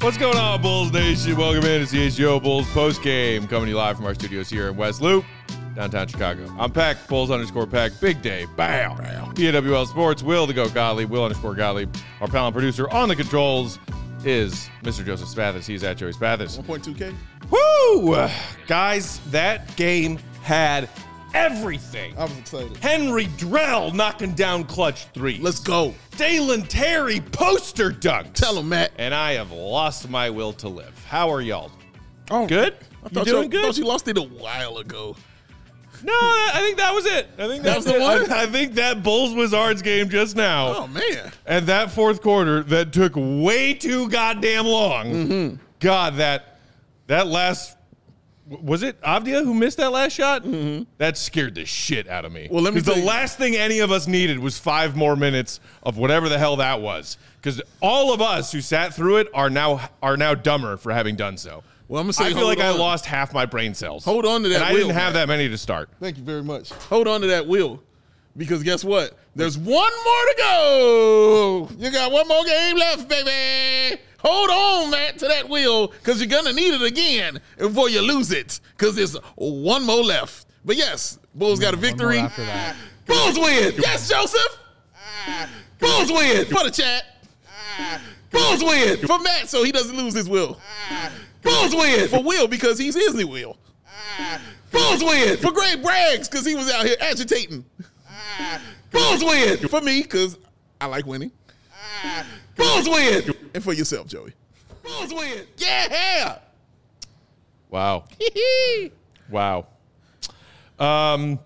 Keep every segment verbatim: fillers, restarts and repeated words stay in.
What's going on, Bulls Nation? Welcome in to C H G O Bulls postgame, coming to you live from our studios here in West Loop, downtown Chicago. I'm Peck, Bulls underscore Peck, Big Day, bam. P A W L Sports, Will the Goat Gottlieb, Will underscore Gottlieb. Our panel producer on the controls is Mister Joseph Spathis. He's at Joey Spathis. one point two K. Woo! Guys, that game had everything. I was excited. Henry Drell knocking down clutch threes. Let's go. Dalen Terry poster dunks. Tell him, Matt. And I have lost my will to live. How are y'all? Oh, Good? I You thought doing you, good? I thought you lost it a while ago. No, I think that was it. I think That that's was the it. one? I, I think that Bulls Wizards game just now. Oh, man. And that fourth quarter that took way too goddamn long. Mm-hmm. God, that that last was it Avdia who missed that last shot? Mm-hmm. That scared the shit out of me. Well, let me Because the tell you- last thing any of us needed was five more minutes of whatever the hell that was. Because all of us who sat through it are now are now dumber for having done so. Well, I'm gonna say, I feel hold like I on. lost half my brain cells. Hold on to that And I will, didn't have man. that many to start. Thank you very much. Hold on to that will. Because guess what? There's one more to go. You got one more game left, baby. Hold on, Matt, to that will, because you're going to need it again before you lose it, because there's one more left. But yes, Bulls got a victory. after that. Bulls win. Yes, Joseph. Bulls win. For the chat. Bulls win. For Matt, so he doesn't lose his will. Bulls win. For Will, because he's his new will. Bulls win. For Greg Braggs, because he was out here agitating. Bulls win. For me, because I like winning. Bulls win. And for yourself, Joey. Bulls win. Yeah. Wow. Wow. Um,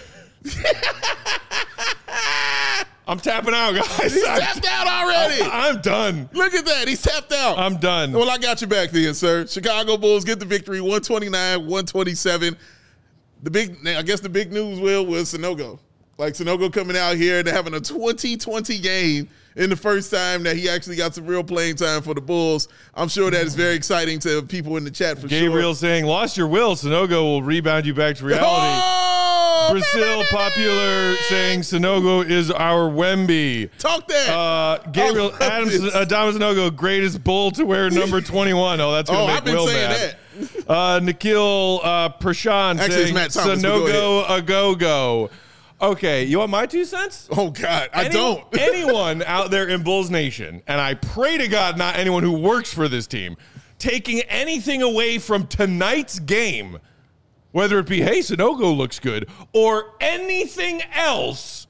I'm tapping out, guys. He's I'm, tapped out already. I'm done. Look at that. He's tapped out. I'm done. Well, I got you back then, sir. Chicago Bulls get the victory, one twenty-nine, one twenty-seven. The big, I guess the big news, Will, was Sanogo. Like, Sanogo coming out here and having a twenty twenty game in the first time that he actually got some real playing time for the Bulls. I'm sure that is very exciting to people in the chat for Gabriel sure. saying, lost your will. Sonogo will rebound you back to reality. Oh! Brazil Popular saying Sonogo is our Wemby. Talk that. Uh, Gabriel I love Adams, this. Adama Sonogo, greatest Bull to wear number twenty-one. Oh, that's going Oh, to I've make been Will saying mad. that. Uh, Nikhil uh, Prashant Actually, it's saying Matt Thomas, but go Sonogo a go-go. Okay, you want my two cents? Oh, God. I Any- don't. anyone out there in Bulls Nation, and I pray to God not anyone who works for this team, taking anything away from tonight's game, whether it be, hey, Sonogo looks good, or anything else,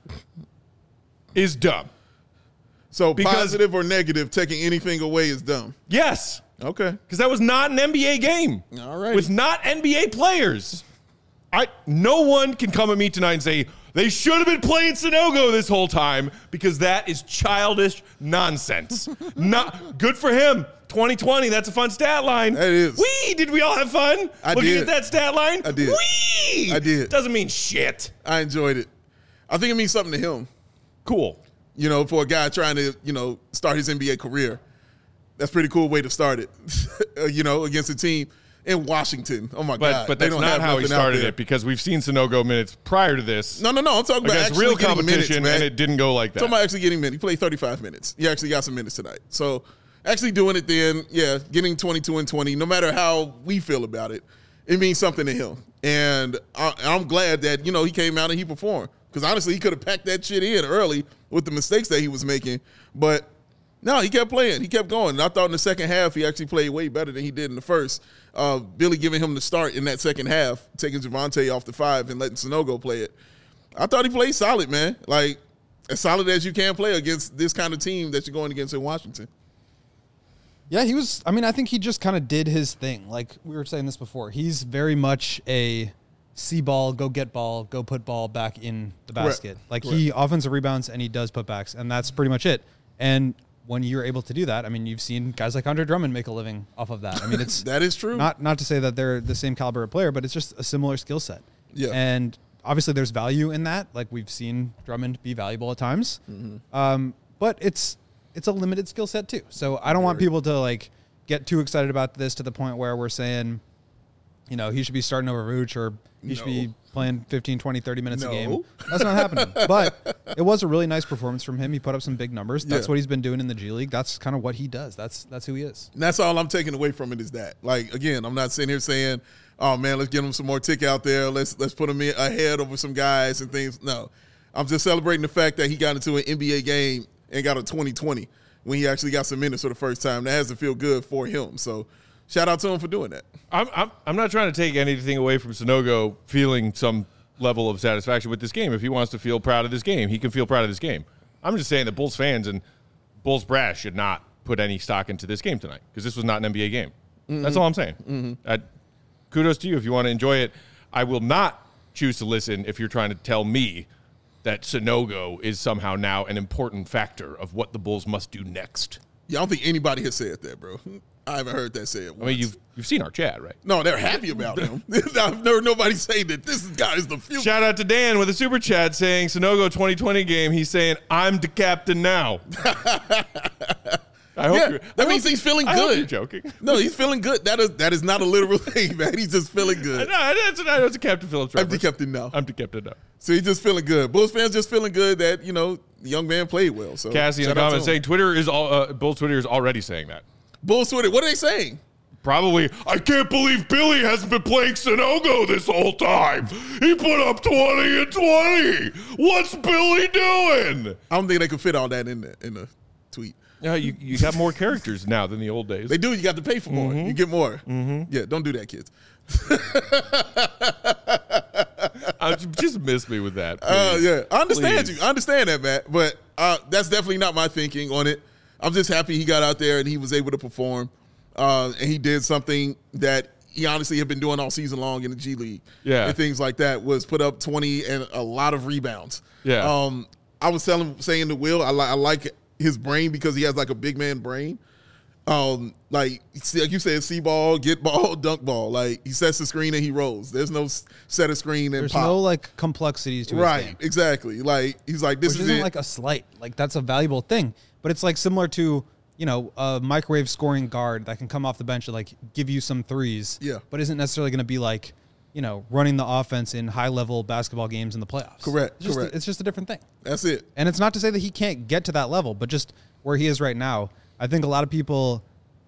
is dumb. So Because- positive or negative, taking anything away is dumb. Yes, Okay. because that was not an N B A game. All right. With not N B A players. I no one can come at me tonight and say they should have been playing Sonogo this whole time, because that is childish nonsense. Not good for him. twenty twenty, that's a fun stat line. That is. Wee, did we all have fun I looking did. at that stat line? I did. Wee! I did. Doesn't mean shit. I enjoyed it. I think it means something to him. Cool. You know, for a guy trying to, you know, start his N B A career. That's a pretty cool way to start it, you know, against a team in Washington. Oh, my But God. but They that's don't not have how he nothing out started there. it, because we've seen Sonogo minutes prior to this No, no, no. I'm talking about against actually real getting competition, minutes, man. and it didn't go like that. I'm talking about actually getting minutes. He played thirty-five minutes. He actually got some minutes tonight. So actually doing it then, yeah, getting twenty-two and twenty, no matter how we feel about it, it means something to him. And I, I'm glad that, you know, he came out and he performed. Because honestly, he could have packed that shit in early with the mistakes that he was making. But no, he kept playing. He kept going. And I thought in the second half, he actually played way better than he did in the first. Uh, Billy giving him the start in that second half, taking Javante off the five and letting Sonogo play it. I thought he played solid, man. Like, as solid as you can play against this kind of team that you're going against in Washington. Yeah, he was. I mean, I think he just kind of did his thing. Like we were saying this before. He's very much a see ball, go get ball, go put ball back in the basket. Correct. Like Correct. he offensive rebounds and he does putbacks, and that's pretty much it. And when you're able to do that, I mean, you've seen guys like Andre Drummond make a living off of that. I mean, it's That is true. not not to say that they're the same caliber of player, but it's just a similar skill set. Yeah. And obviously, there's value in that. Like we've seen Drummond be valuable at times, Mm-hmm. um, but it's it's a limited skill set too. So I don't want people to like get too excited about this to the point where we're saying, you know, he should be starting over Vooch or he No. should be playing fifteen, twenty, thirty minutes No. a game. That's not happening. But it was a really nice performance from him. He put up some big numbers. That's Yeah. what he's been doing in the G League. That's kind of what he does. That's that's who he is. And that's all I'm taking away from it is that. Like, again, I'm not sitting here saying, oh, man, let's get him some more tick out there. Let's let's put him in ahead over some guys and things. No. I'm just celebrating the fact that he got into an N B A game and got a twenty twenty when he actually got some minutes for the first time. That has to feel good for him. So shout out to him for doing that. I'm, I'm I'm not trying to take anything away from Sanogo feeling some level of satisfaction with this game. If he wants to feel proud of this game, he can feel proud of this game. I'm just saying that Bulls fans and Bulls brass should not put any stock into this game tonight because this was not an N B A game. Mm-hmm. That's all I'm saying. Mm-hmm. I, kudos to you if you want to enjoy it. I will not choose to listen if you're trying to tell me that Sanogo is somehow now an important factor of what the Bulls must do next. Yeah, I don't think anybody has said that, bro. I haven't heard that said once. I mean, you've you've seen our chat, right? No, they're happy about him. I've never nobody saying that this guy is the future. Shout out to Dan with a super chat saying Sanogo twenty twenty game. He's saying, I'm the captain now. I hope Yeah, you're, that I means hope- he's feeling I hope good. you're joking. No, he's feeling good. That is that is not a literal thing, man. He's just feeling good. No, that's, that's a Captain Phillips I'm the reference. captain now. I'm the captain now. So he's just feeling good. Bulls fans just feeling good that, you know, the young man played well. So Cassie in the shout out to comments him. saying Twitter is all, uh, Bulls Twitter is already saying that. Bulls Twitter, what are they saying? Probably, I can't believe Billy hasn't been playing Sanogo this whole time. He put up twenty and twenty. What's Billy doing? I don't think they could fit all that in the in the tweet. Yeah, you, you got more characters now than the old days. They do. You got to pay for more. Mm-hmm. You get more. Mm-hmm. Yeah, don't do that, kids. uh, just miss me with that. Uh, please. yeah, I understand Please. you. I understand that, Matt. But uh, that's definitely not my thinking on it. I'm just happy he got out there and he was able to perform. Uh, and he did something that he honestly had been doing all season long in the G League. Yeah. And things like that, was put up twenty and a lot of rebounds. Yeah. Um, I was telling, saying to Will, I, li- I like his brain because he has like a big man brain. Um, like, see- like you said, see ball, get ball, dunk ball. Like, he sets the screen and he rolls. There's no s- set a screen and There's pop. no like complexities to his right, game. exactly. Like, he's like, this Which is isn't it. like a slight. Like that's a valuable thing. But it's like similar to, you know, a microwave scoring guard that can come off the bench and like give you some threes. Yeah. But isn't necessarily going to be like, you know, running the offense in high level basketball games in the playoffs. Correct, It's just, correct. it's just a different thing. That's it. And it's not to say that he can't get to that level, but just where he is right now, I think a lot of people,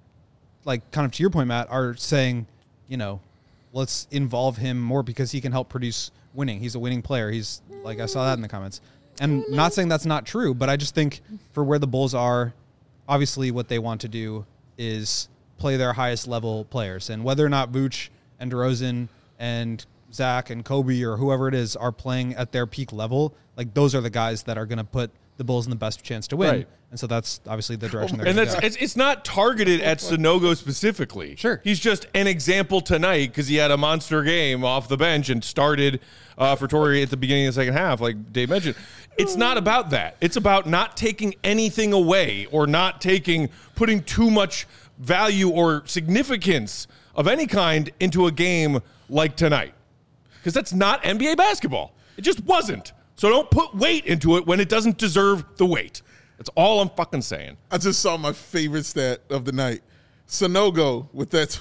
like kind of to your point, Matt, are saying, you know, let's involve him more because he can help produce winning. He's a winning player. He's like, I saw that in the comments. And not saying that's not true, but I just think for where the Bulls are, obviously what they want to do is play their highest level players. And whether or not Vooch and DeRozan and Zach and Kobe or whoever it is are playing at their peak level, like those are the guys that are going to put the Bulls in the best chance to win. Right. And so that's obviously the direction they're And going that's to go. it's, it's not targeted at Sanogo specifically. Sure. He's just an example tonight because he had a monster game off the bench and started uh, for Torrey at the beginning of the second half, like Dave mentioned. It's not about that. It's about not taking anything away or not taking, putting too much value or significance of any kind into a game like tonight. Because that's not N B A basketball. It just wasn't. So don't put weight into it when it doesn't deserve the weight. That's all I'm fucking saying. I just saw my favorite stat of the night. Sanogo with that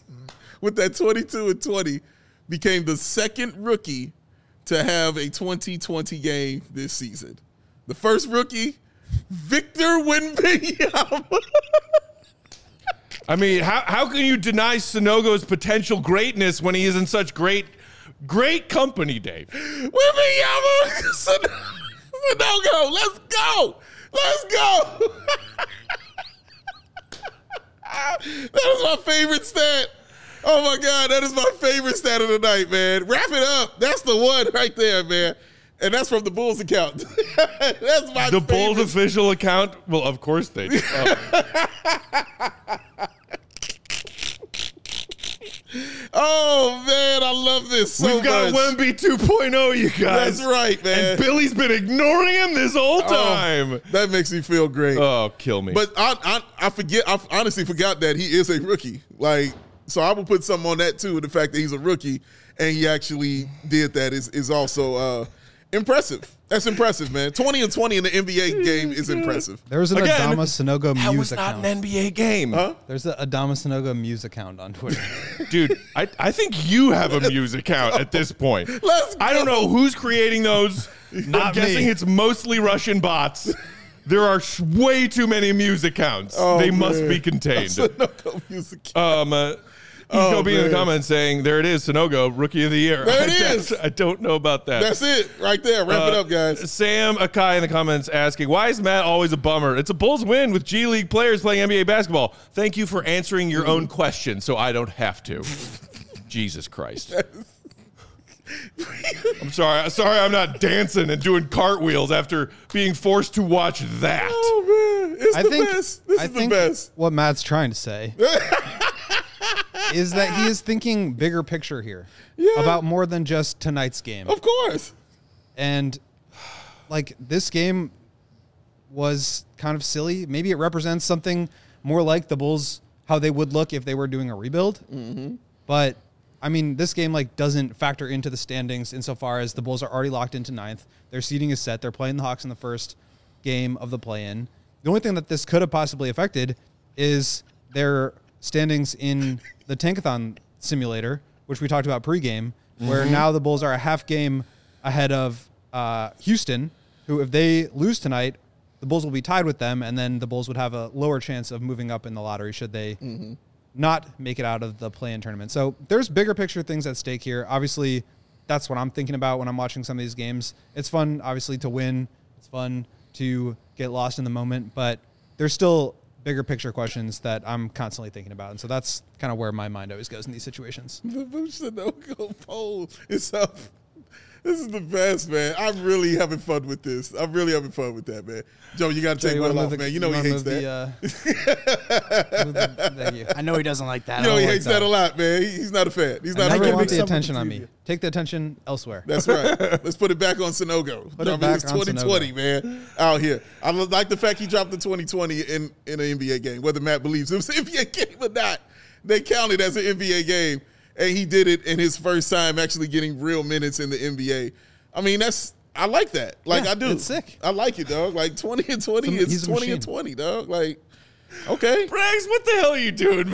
with that twenty-two and twenty became the second rookie to have a twenty twenty game this season. The first rookie, Victor Wembanyama. I mean, how how can you deny Sanogo's potential greatness when he is in such great, great company, Dave? Wembanyama. Sanogo, let's go. Let's go. That is my favorite stat. Oh my God, that is my favorite stat of the night, man. Wrap it up. That's the one right there, man. And that's from the Bulls account. That's my The favorite. Bulls official account? Well, of course they do. Oh. Oh man, I love this so We've got much. Wemby two point oh, you guys. That's right, man. And Billy's been ignoring him this whole Oh, time. that makes me feel great. Oh, kill me. But I, I, I forget. I honestly forgot that he is a rookie. Like, so I will put something on that too. The fact that he's a rookie and he actually did that is is also uh, Impressive. That's impressive, man. twenty and twenty in the N B A game is impressive. There's an Again, Adama Sanogo That Muse was not account. an N B A game. Huh? There's an Adama Sanogo Muse account on Twitter. Dude, I, I think you have a Muse account at this point. Let's go. I don't know who's creating those. I'm Not guessing me. it's mostly Russian bots. There are sh- way too many Muse accounts. Oh, they must man. be contained. Sunogo music. Um, uh, you Oh, go be in the man. comments saying, there it is, Sanogo, Rookie of the Year. There it I, is. I don't know about that. That's it right there. Wrap it Uh, up, guys. Sam Akai in the comments asking, why is Matt always a bummer? It's a Bulls win with G League players playing N B A basketball. Thank you for answering your own question so I don't have to. Jesus Christ. I'm sorry. Sorry I'm not dancing and doing cartwheels after being forced to watch that. Oh man, it's I the think best. This I is think the best. what Matt's trying to say is that he is thinking bigger picture here Yeah. about more than just tonight's game. Of course. And like this game was kind of silly. Maybe it represents something more like the Bulls, how they would look if they were doing a rebuild. Mm-hmm. But I mean, this game like doesn't factor into the standings insofar as the Bulls are already locked into ninth. Their seeding is set. They're playing the Hawks in the first game of the play-in. The only thing that this could have possibly affected is their standings in the Tankathon simulator, which we talked about pregame, where now the Bulls are a half game ahead of uh, Houston, who if they lose tonight, the Bulls will be tied with them, and then the Bulls would have a lower chance of moving up in the lottery should they mm-hmm. not make it out of the play-in tournament. So there's bigger picture things at stake here. Obviously, that's what I'm thinking about when I'm watching some of these games. It's fun, obviously, to win. It's fun to get lost in the moment, but there's still bigger picture questions that I'm constantly thinking about. And so that's kind of where my mind always goes in these situations. The Sunogo poll is up. This is the best, man. I'm really having fun with this. I'm really having fun with that, man. Joe, you got to Joe, take you Will wanna off, move the- man. You know he wanna hates move that. the, uh, move the- thank you. I know he doesn't like that. You know I he don't hates like that a lot, man. He- He's not a fan. He's I not a never fan. want the something attention on between me. you. Take the attention elsewhere. That's right. Let's put it back on Sunogo. Put it I mean, back it's on twenty twenty, man, out here. I like the fact he dropped the twenty twenty in, in an N B A game, whether Matt believes it was an N B A game or not. They counted as an N B A game, and he did it in his first time actually getting real minutes in the N B A. I mean, that's I like that. Like, Yeah, I do. it's sick. I like it, dog. Like, twenty and twenty He's a- is he's a twenty and machine. twenty, dog. Like, okay. Braggs, what the hell are you doing,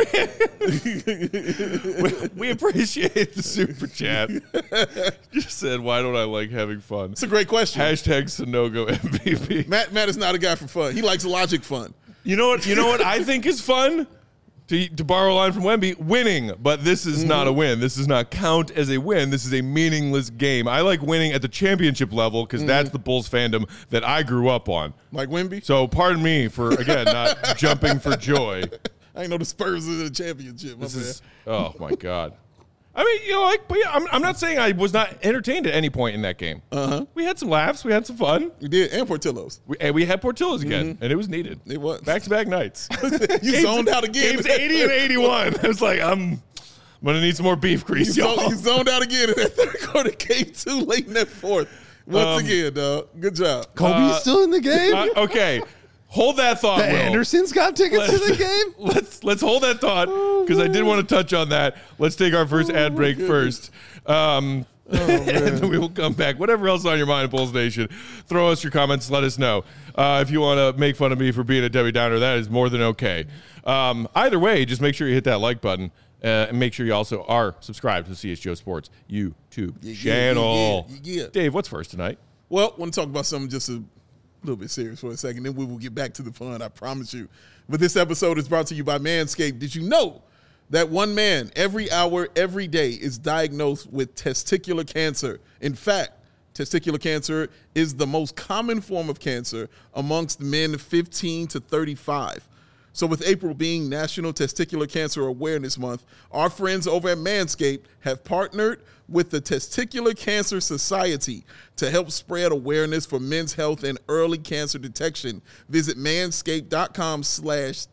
man? we, we appreciate the super chat. Just said, why don't I like having fun? It's a great question. Hashtag Sunogo M V P. Matt, Matt is not a guy for fun. He likes logic fun. You know what? You know what I think is fun? To, to borrow a line from Wemby, winning. But this is not a win. This does not count as a win. This is a meaningless game. I like winning at the championship level because that's the Bulls fandom that I grew up on. Like Wemby. So pardon me for, again, not jumping for joy. I ain't know the Spurs are in the championship. My This bad. is, oh, my God. I mean, you know, like, but yeah, I'm, I'm not saying I was not entertained at any point in that game. Uh-huh. We had some laughs. We had some fun. We did, and Portillo's. We, and we had Portillo's again, and it was needed. It was. Back-to-back nights. You zoned out again. Games eighty and eighty-one. I was like, I'm, I'm going to need some more beef You, grease, zoned, y'all. you zoned out again in that third quarter. Game two, late in that fourth. Once Um, again, dog. Good job. Kobe's Uh, still in the game? Uh, okay. Hold that thought, the Will. Andersons got tickets to the game? Let's let's hold that thought because I did want to touch on that. Let's take our first ad break first. Um, and then we will come back. Whatever else is on your mind, Bulls Nation, throw us your comments. Let us know. Uh, if you want to make fun of me for being a Debbie Downer, that is more than okay. Um, either way, just make sure you hit that like button. Uh, and make sure you also are subscribed to the C H G O Sports YouTube yeah, channel. yeah, yeah, yeah. Dave, what's first tonight? Well, I want to talk about something just a little bit serious for a second, then we will get back to the fun, I promise you. But this episode is brought to you by Manscaped. Did you know that one man every hour, every day is diagnosed with testicular cancer? In fact, testicular cancer is the most common form of cancer amongst men fifteen to thirty-five. So with April being National Testicular Cancer Awareness Month, our friends over at Manscaped have partnered with the Testicular Cancer Society to help spread awareness for men's health and early cancer detection. Visit manscaped.com slash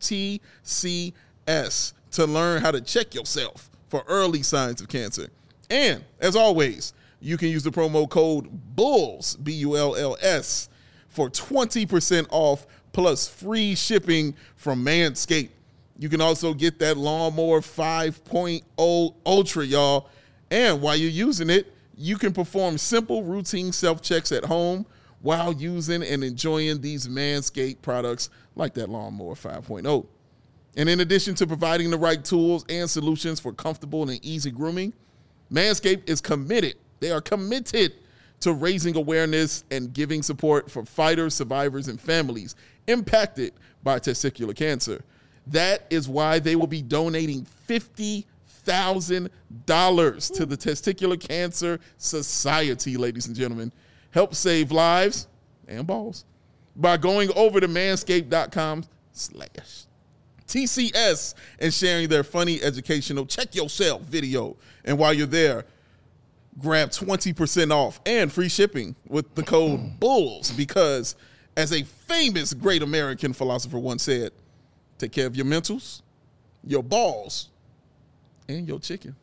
TCS to learn how to check yourself for early signs of cancer. And as always, you can use the promo code BULLS, B U L L S, for twenty percent off plus free shipping from Manscaped. You can also get that Lawnmower five point oh Ultra, y'all. And while you're using it, You can perform simple routine self-checks at home while using and enjoying these Manscaped products like that Lawnmower five point oh. And in addition to providing the right tools and solutions for comfortable and easy grooming, Manscaped is committed. They are committed to raising awareness and giving support for fighters, survivors, and families impacted by testicular cancer. That is why they will be donating fifty thousand dollars to the Testicular Cancer Society, ladies and gentlemen. Help save lives and balls by going over to manscaped.com slash TCS and sharing their funny, educational, check yourself video. And while you're there, grab twenty percent off and free shipping with the code BULLS, because as a famous great American philosopher once said, take care of your mentals, your balls, and your chicken.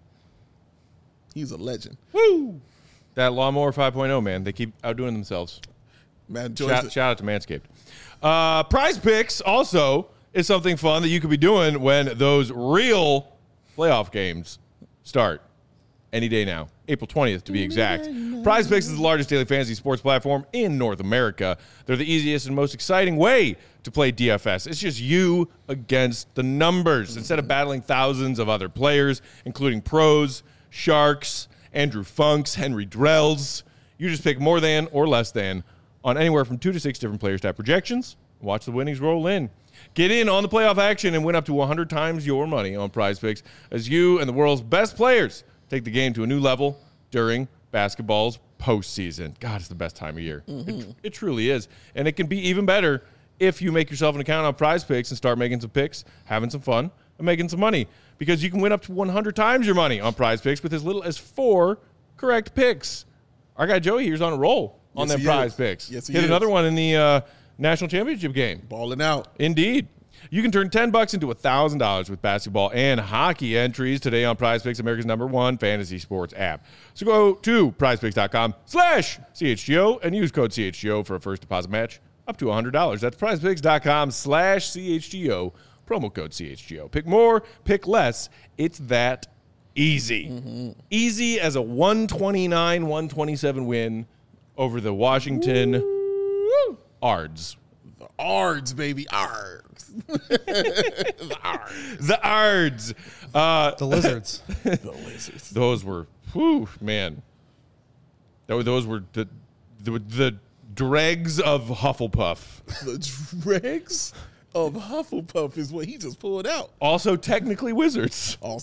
He's a legend. Woo! That Lawnmower five point oh, man. They keep outdoing themselves. Man, Shout, shout out to Manscaped. Uh, Prize Picks also is something fun that you could be doing when those real playoff games start any day now. April twentieth, to be exact. Prize Picks is the largest daily fantasy sports platform in North America. They're the easiest and most exciting way to play D F S. It's just you against the numbers. Instead of battling thousands of other players, including pros, sharks, Andrew Funks, Henry Drells, you just pick more than or less than on anywhere from two to six different player stat projections. Watch the winnings roll in. Get in on the playoff action and win up to one hundred times your money on Prize Picks as you and the world's best players take the game to a new level during basketball's postseason. God, it's the best time of year. Mm-hmm. It, it truly is. And it can be even better if you make yourself an account on Prize Picks and start making some picks, having some fun, and making some money. Because you can win up to one hundred times your money on Prize Picks with as little as four correct picks. Our guy Joey here's on a roll on Yes, them he Prize is. Picks. Yes, he Hit is. another one in the uh, national championship game. balling out. Indeed. You can turn ten bucks into one thousand dollars with basketball and hockey entries today on Prize Picks, America's number one fantasy sports app. So go to prizepicks.com slash CHGO and use code C H G O for a first deposit match up to one hundred dollars. That's prizepicks.com slash CHGO, promo code C H G O. Pick more, pick less. It's that easy. Mm-hmm. Easy as a one twenty-nine one twenty-seven win over the Washington Woo. Ards. The Ards, baby. Ards. the Ards. The Ards. Uh, The Lizards. The Lizards. those were, whew, man. Tho- Those were the, the the dregs of Hufflepuff. The dregs of Hufflepuff is what he just pulled out. Also, technically wizards. Oh,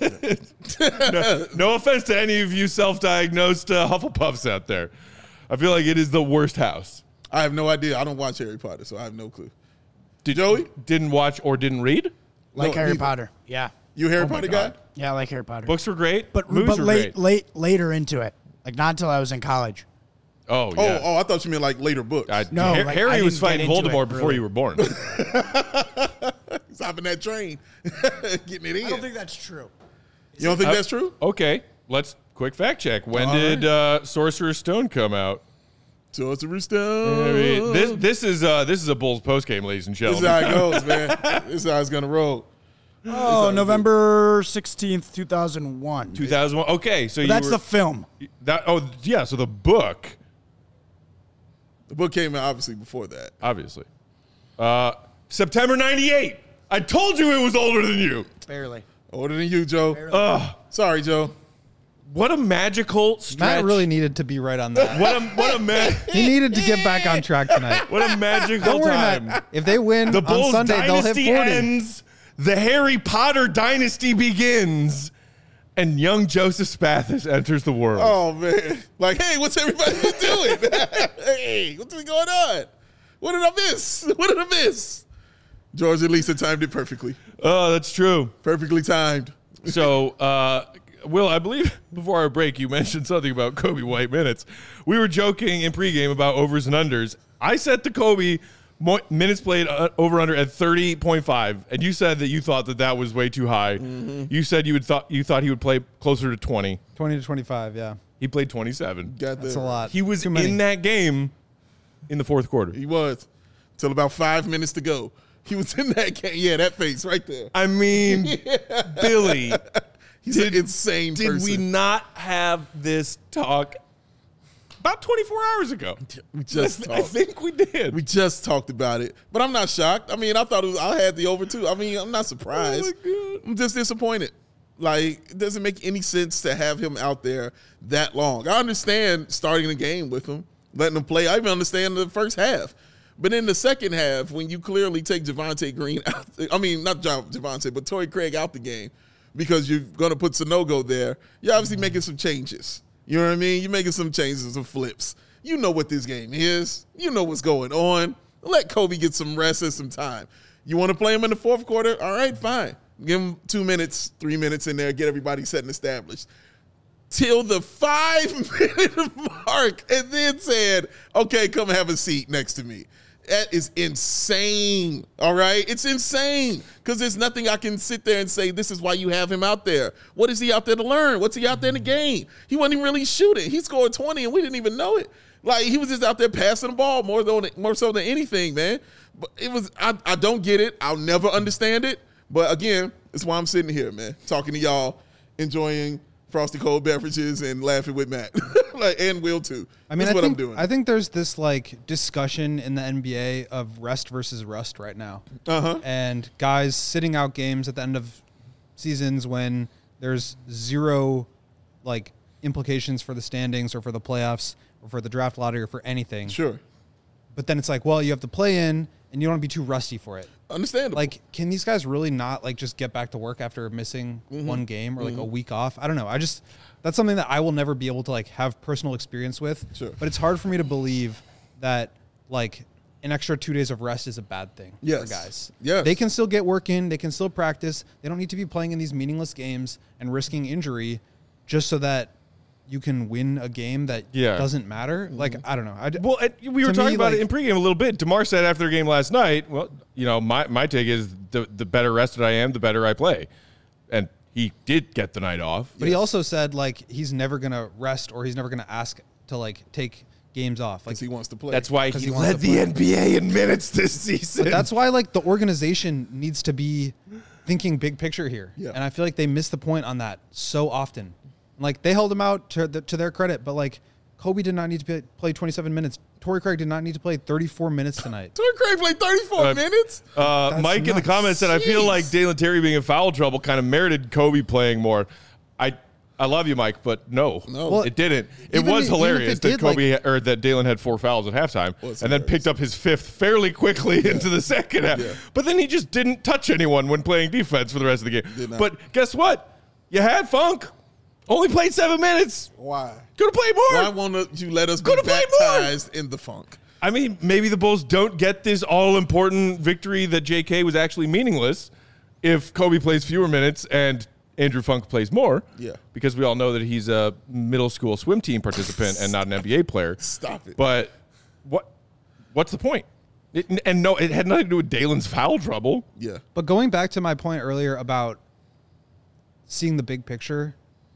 No, no offense to any of you self-diagnosed uh, Hufflepuffs out there. I feel like it is the worst house. I have no idea. I don't watch Harry Potter, so I have no clue. Did Joey? Didn't watch or didn't read? Like No, Harry neither. Potter. Yeah. You a Harry Oh my Potter God. guy? Yeah, I like Harry Potter. Books were great. but movies but were late great. late later into it. Like not until I was in college. Oh, Oh, yeah. oh, I thought you meant like later books. I, No, Har- like, Harry I was didn't get fighting into Voldemort it, before really. you were born. Stopping that train, getting it in. I don't think that's true. you don't think Uh, that's true? Okay, let's quick fact check. When All did uh, Sorcerer's Stone come out? Sorcerer's I Stone. mean, this this is uh, this is a Bulls postgame, ladies and This is gentlemen. how it goes, man. This is how it's gonna roll. Oh, November sixteenth, two thousand one. two thousand one. Okay, so you That's were, the film. that. Oh, yeah. So the book, The book came out obviously before that. obviously, uh, September ninety-eight. I told you it was older than you. Barely. Older than you, Joe. Ugh, Sorry, Joe. what a magical stretch. Matt really needed to be right on that. What a what a ma- He needed to get back on track tonight. what a magical Don't worry, time. Matt. If they win The on Bulls Sunday, they'll hit dynasty forty. ends. The Harry Potter dynasty begins, and young Joseph Spathis enters the world. Oh man. Like, hey, what's everybody doing? Hey, what's going on? What did I miss? What did I miss? George and Lisa timed it perfectly. Oh, that's true. Perfectly timed. So, uh, Will, I believe before our break, you mentioned something about Kobe White minutes. We were joking in pregame about overs and unders. I set the Kobe mo- minutes played uh, over under at thirty point five, and you said that you thought that that was way too high. Mm-hmm. You said you would thought you thought he would play closer to twenty. twenty to twenty-five, yeah. He played twenty-seven. Got That's that. a lot. He was Too many. in that game in the fourth quarter. He was. Till about five minutes to go. He was in that game. Yeah, that face right there. I mean, Billy. He's Did- an insane Did person. we not have this talk about twenty-four hours ago? We just I talked. think we did. We just talked about it, but I'm not shocked. I mean, I thought it was, I had the over too. I mean, I'm not surprised. Oh, my I'm just disappointed. Like, it doesn't make any sense to have him out there that long. I understand starting the game with him, letting him play. I even understand the first half. But in the second half, when you clearly take Javonte Green out, I mean, not Javonte, but Torrey Craig out the game because you're going to put Sanogo there, you're obviously making some changes. You know what I mean? You're making some changes, some flips. You know what this game is. You know what's going on. Let Kobe get some rest and some time. You want to play him in the fourth quarter? All right, fine. Give him two minutes, three minutes in there, get everybody set and established. Till the five-minute mark, and then said, okay, come have a seat next to me. That is insane, all right? It's insane because there's nothing I can sit there and say, this is why you have him out there. What is he out there to learn? What's he out there in the game? He wasn't even really shooting. He scored twenty, and we didn't even know it. Like, he was just out there passing the ball more, than, more so than anything, man. But it was, I, I don't get it. I'll never understand it. But, again, it's why I'm sitting here, man, talking to y'all, enjoying frosty cold beverages and laughing with Matt. Like, and Will, too. I mean, That's I what think, I'm doing. I think there's this like discussion in the N B A of rest versus rust right now. Uh-huh. And guys sitting out games at the end of seasons when there's zero like implications for the standings or for the playoffs or for the draft lottery or for anything. Sure. But then it's like, well, you have to play in and you don't want to be too rusty for it. Understandable. Like, can these guys really not like just get back to work after missing Mm-hmm. one game or like a week off? I don't know. I just, that's something that I will never be able to like have personal experience with. Sure. But it's hard for me to believe that like an extra two days of rest is a bad thing Yes. for guys. Yes. They can still get work in. They can still practice. They don't need to be playing in these meaningless games and risking injury just so that you can win a game that Yeah. doesn't matter. Like, I don't know. I d- Well, and we were To talking me, about like- it in pregame a little bit. DeMar said after the game last night, well, you know, my, my take is the, the better rested I am, the better I play. And he did get the night off. But he also said like he's never gonna rest or he's never gonna ask to like take games off. Like Because he wants to play. That's why 'Cause he, he wants led to the play. N B A in minutes this season. But that's why like the organization needs to be thinking big picture here. Yeah. And I feel like they miss the point on that so often. Like they held him out to the, to their credit, but like Kobe did not need to play, play twenty-seven minutes. Torrey Craig did not need to play thirty-four minutes tonight. Torrey Craig played thirty-four Uh, minutes. Uh, That's Mike in the nuts. comments said, I feel Jeez. like Dalen Terry being in foul trouble kind of merited Kobe playing more. I I love you, Mike, but no, No. Well, it didn't. It even was if- even if hilarious it that did, Kobe or that Dalen had four fouls at halftime Was and then hilarious. picked up his fifth fairly quickly into the second half. Yeah. But then he just didn't touch anyone when playing defense for the rest of the Did game. not. But guess what? You had Funk. Only played seven minutes. Why? Could have played more. Why won't you let us be Coulda played more. baptized in the funk? I mean, maybe the Bulls don't get this all-important victory that J K was actually meaningless if Kobe plays fewer minutes and Andrew Funk plays more. Yeah. Because we all know that he's a middle school swim team participant and not an N B A player. Stop it. But what? What's the point? It, and no, it had nothing to do with Dalen's foul trouble. Yeah. But going back to my point earlier about seeing the big picture,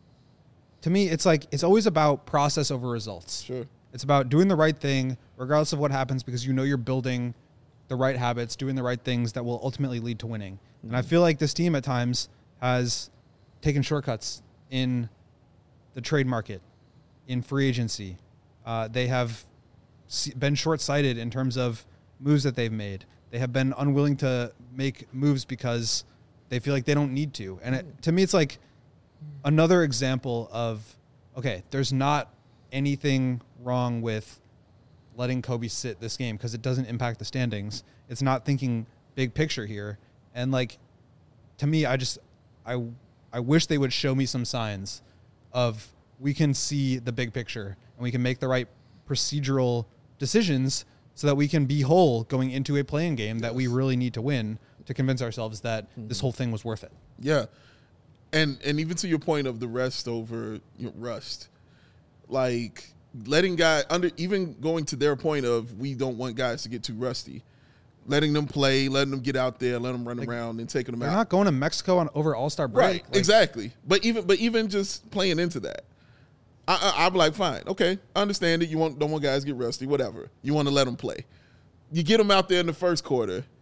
to me, it's like it's always about process over results. Sure. It's about doing the right thing, regardless of what happens, because you know you're building the right habits, doing the right things that will ultimately lead to winning. Mm-hmm. And I feel like this team at times has taken shortcuts in the trade market, in free agency. Uh, they have se- been short-sighted in terms of moves that they've made. They have been unwilling to make moves because they feel like they don't need to. And it, to me, it's like another example of, okay, there's not anything wrong with letting Kobe sit this game because it doesn't impact the standings. It's not thinking big picture here. And like, to me, I just, I, I wish they would show me some signs of we can see the big picture and we can make the right procedural decisions so that we can be whole going into a playing game that we really need to win to convince ourselves that this whole thing was worth it. Yeah. And and even to your point of the rest over you know, rust, like letting guys under even going to their point of we don't want guys to get too rusty, letting them play, letting them get out there, let them run Like, around and taking them They're out. not going to Mexico on over All-Star break. Right, Like, exactly. But even but even just playing into that, I, I, I'm like, fine, okay, I understand it. You want don't want guys to get rusty, whatever. You want to let them play. You get them out there in the first quarter.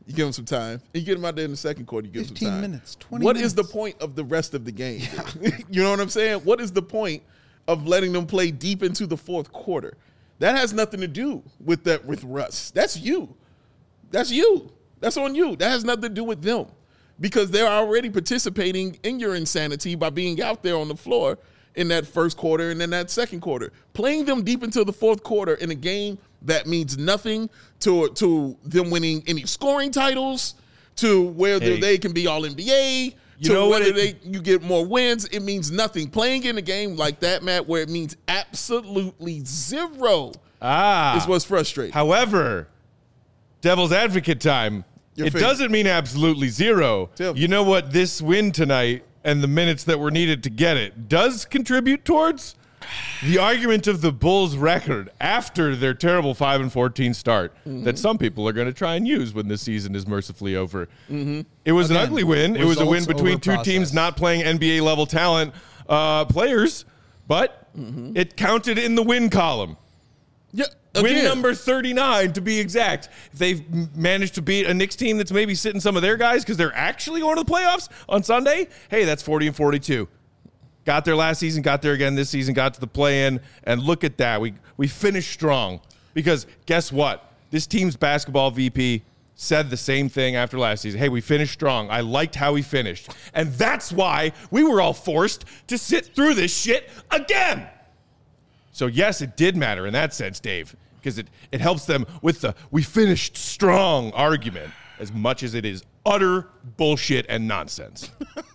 You give him some time. And you get him out there in the second quarter. You give him some fifteen time. minutes, twenty What minutes. is the point of the rest of the game? You know what I'm saying? What is the point of letting them play deep into the fourth quarter? That has nothing to do with that with Russ. That's you. That's you. That's on you. That has nothing to do with them because they're already participating in your insanity by being out there on the floor in that first quarter and then that second quarter. Playing them deep into the fourth quarter in a game that means nothing to, to them winning any scoring titles, to whether Hey. they can be all N B A, You to know what whether it- they you get more wins. It means nothing. Playing in a game like that, Matt, where it means absolutely zero Ah. is what's frustrating. However, devil's advocate time. Your it favorite. doesn't mean absolutely zero. Tell me. You know what this win tonight and the minutes that were needed to get it does contribute towards? The argument of the Bulls' record after their terrible five and fourteen start Mm-hmm. that some people are going to try and use when this season is mercifully over. Mm-hmm. It was Again, an ugly win. It was a win results between over two teams process. not playing N B A level talent uh, players, but Mm-hmm. it counted in the win column. Yeah, Win again, number thirty-nine to be exact. If they've m- managed to beat a Knicks team that's maybe sitting some of their guys because they're actually going to the playoffs on Sunday, hey, that's forty and forty-two. Got there last season, got there again this season, got to the play-in, and look at that. We we finished strong because guess what? This team's basketball V P said the same thing after last season. Hey, we finished strong. I liked how we finished. And that's why we were all forced to sit through this shit again. So, yes, it did matter in that sense, Dave, because it, it helps them with the we finished strong argument as much as it is utter bullshit and nonsense.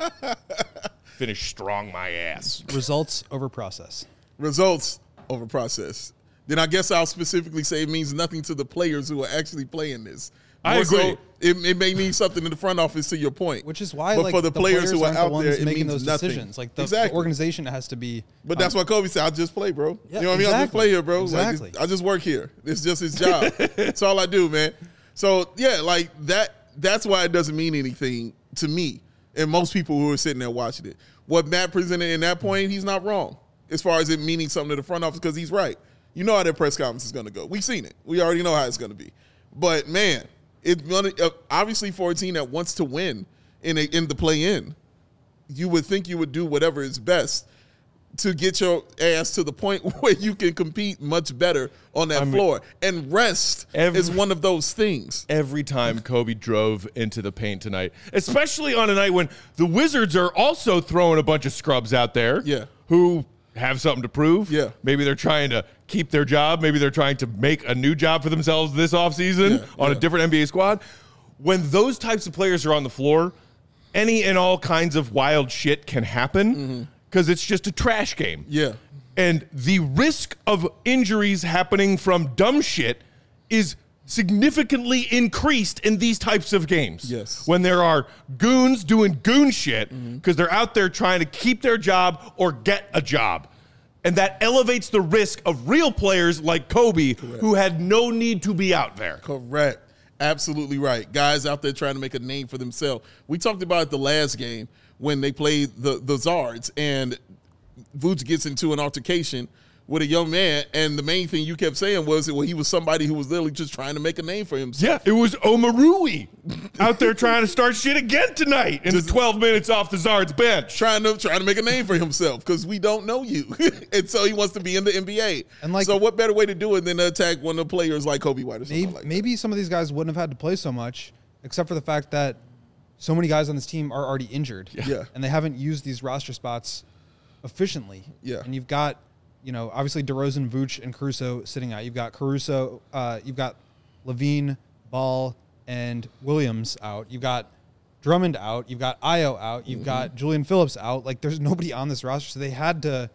Finish strong my ass. Results over process. results over process. Then I guess I'll specifically say it means nothing to the players who are actually playing this. I More so, agree. it, it may mean something in the front office, to your point. Which is why, but like, for the, players, who are aren't the out ones there, it making means those nothing. decisions. Like the, exactly. the organization has to be. But that's why Kobe said, "I'll just play, bro. Yeah, you know what I mean? I'll just exactly. play here, bro. Like, Exactly. I just work here. It's just his job. That's all I do, man. So yeah, like that. That's why it doesn't mean anything to me and most people who are sitting there watching it. What Matt presented in that point, he's not wrong as far as it meaning something to the front office because he's right. You know how that press conference is going to go. We've seen it. We already know how it's going to be. But man, it's gonna, uh, obviously for a team that wants to win in a, in the play-in, you would think you would do whatever is best to get your ass to the point where you can compete much better on that I mean, floor. And rest every- is one of those things. Every time Kobe drove into the paint tonight, especially on a night when the Wizards are also throwing a bunch of scrubs out there Yeah. who have something to prove. Yeah. Maybe they're trying to keep their job. Maybe they're trying to make a new job for themselves this offseason Yeah, on yeah. a different N B A squad. When those types of players are on the floor, any and all kinds of wild shit can happen because it's just a trash game. Yeah. And the risk of injuries happening from dumb shit is significantly increased in these types of games. Yes. When there are goons doing goon shit because they're out there trying to keep their job or get a job. And that elevates the risk of real players like Kobe who had no need to be out there. Correct. Absolutely right. Guys out there trying to make a name for themselves. We talked about it the last game when they played the, the Zards and Vooch gets into an altercation with a young man, and the main thing you kept saying was that well, he was somebody who was literally just trying to make a name for himself. Yeah, it was Omarui out there trying to start shit again tonight in the twelve minutes off the Zard's bench. Trying to trying to make a name for himself because we don't know you, and so he wants to be in the N B A. And, like- so, what better way to do it than to attack one of the players like Kobe White or something Maybe, like that? maybe some of these guys wouldn't have had to play so much, except for the fact that so many guys on this team are already injured. Yeah. And they haven't used these roster spots efficiently. Yeah. And you've got, you know, obviously DeRozan, Vooch, and Caruso sitting out. You've got Caruso, uh, you've got Levine, Ball, and Williams out. You've got Drummond out. You've got Io out. You've Mm-hmm. got Julian Phillips out. Like, there's nobody on this roster, so they had to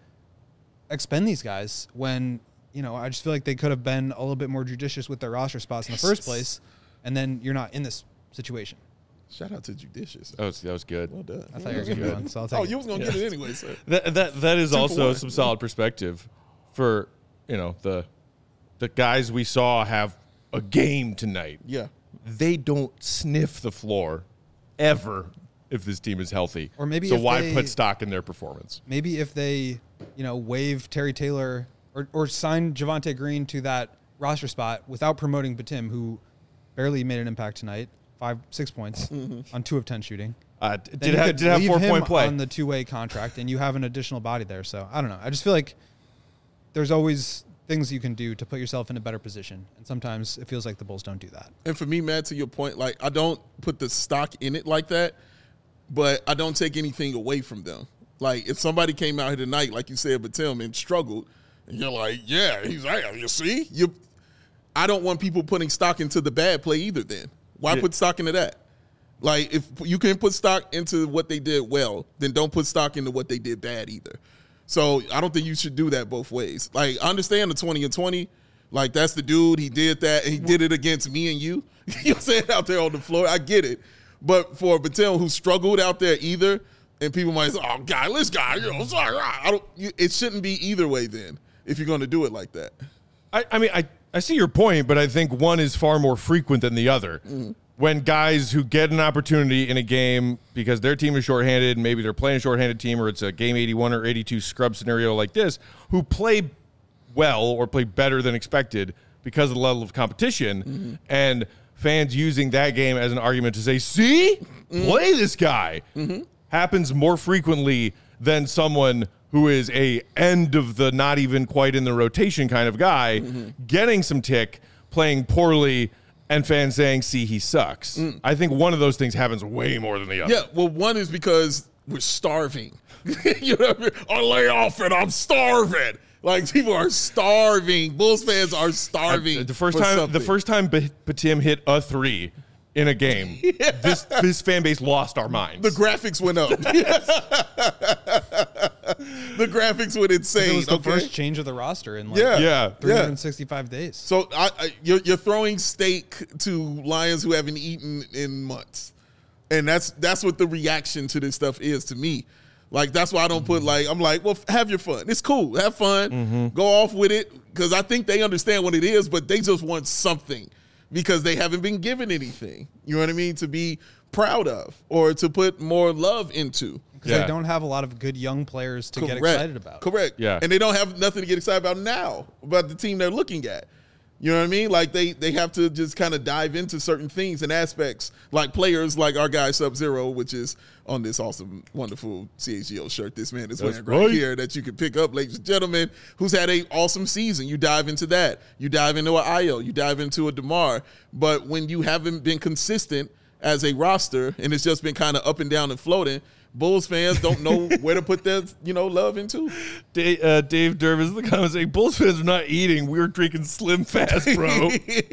expend these guys when, you know, I just feel like they could have been a little bit more judicious with their roster spots in the first place, and then you're not in this situation. Shout out to Judicious. That was, that was good. Well done. I thought you were going to be one, so I'll take Oh, it. you was gonna get it anyway, sir. That that that is for also one. some solid perspective for you know the the guys we saw have a game tonight. Yeah. They don't sniff the floor ever if this team is healthy. Or maybe so if why they- put stock in their performance? Maybe if they, you know, waive Terry Taylor or, or sign Javante Green to that roster spot without promoting Batum, who barely made an impact tonight, five, six points Mm-hmm. on two of ten shooting. Uh, Then did you have, could did have leave four him point play. on the two-way contract, and you have an additional body there. So I don't know. I just feel like there's always things you can do to put yourself in a better position, and sometimes it feels like the Bulls don't do that. And for me, Matt, to your point, like I don't put the stock in it like that, but I don't take anything away from them. Like if somebody came out here tonight, like you said, Batum and struggled, and you're like, yeah, he's right. You see, you. I don't want people putting stock into the bad play either. Then why Yeah. put stock into that? Like if you can put stock into what they did well, then don't put stock into what they did bad either. So I don't think you should do that both ways. Like I understand the twenty and twenty. Like that's the dude. He did that. And he did it against me and you. You know what I'm saying? Out there on the floor. I get it. But for Batum, who struggled out there either, and people might say, oh, guy, this guy, you know, sorry, I don't, you, it shouldn't be either way then if you're going to do it like that. I, I mean, I, I see your point, but I think one is far more frequent than the other. Mm-hmm. When guys who get an opportunity in a game because their team is shorthanded, maybe they're playing a shorthanded team or it's a game eighty-one or eighty-two scrub scenario like this, who play well or play better than expected because of the level of competition, Mm-hmm. and fans using that game as an argument to say, see, Mm-hmm. play this guy, Mm-hmm. happens more frequently than someone who is a end of the not even quite in the rotation kind of guy, Mm-hmm. getting some tick, playing poorly, and fans saying, see, he sucks. Mm. I think one of those things happens way more than the other. Yeah, well, one is because we're starving. You know what I mean? I lay off and I'm starving. Like people are starving. Bulls fans are starving. I- the first for time, something. the first time Ba- Batum hit a three in a game, this this fan base lost our minds. the graphics went up. The graphics went insane. It was the okay? first change of the roster in like Yeah. yeah, three hundred sixty-five days. So I, I, you're, you're throwing steak to lions who haven't eaten in months, and that's that's what the reaction to this stuff is to me. Like that's why I don't put like I'm like, well, have your fun. It's cool, have fun, Mm-hmm. go off with it, because I think they understand what it is, but they just want something because they haven't been given anything. You know what I mean? To be proud of or to put more love into. Because Yeah. they don't have a lot of good young players to get Correct. excited about. Correct. Yeah. And they don't have nothing to get excited about now about the team they're looking at. You know what I mean? Like they they have to just kind of dive into certain things and aspects, like players like our guy Sub-Zero, which is on this awesome, wonderful C H G O shirt this man is That's wearing right right. here that you can pick up, ladies and gentlemen, who's had a awesome season. You dive into that. You dive into an Io. You dive into a DeMar. But when you haven't been consistent as a roster and it's just been kind of up and down and floating, Bulls fans don't know where to put their, you know, love into. Dave, uh, Dave Dervis in the comments saying, Bulls fans are not eating. We were drinking Slim Fast, bro.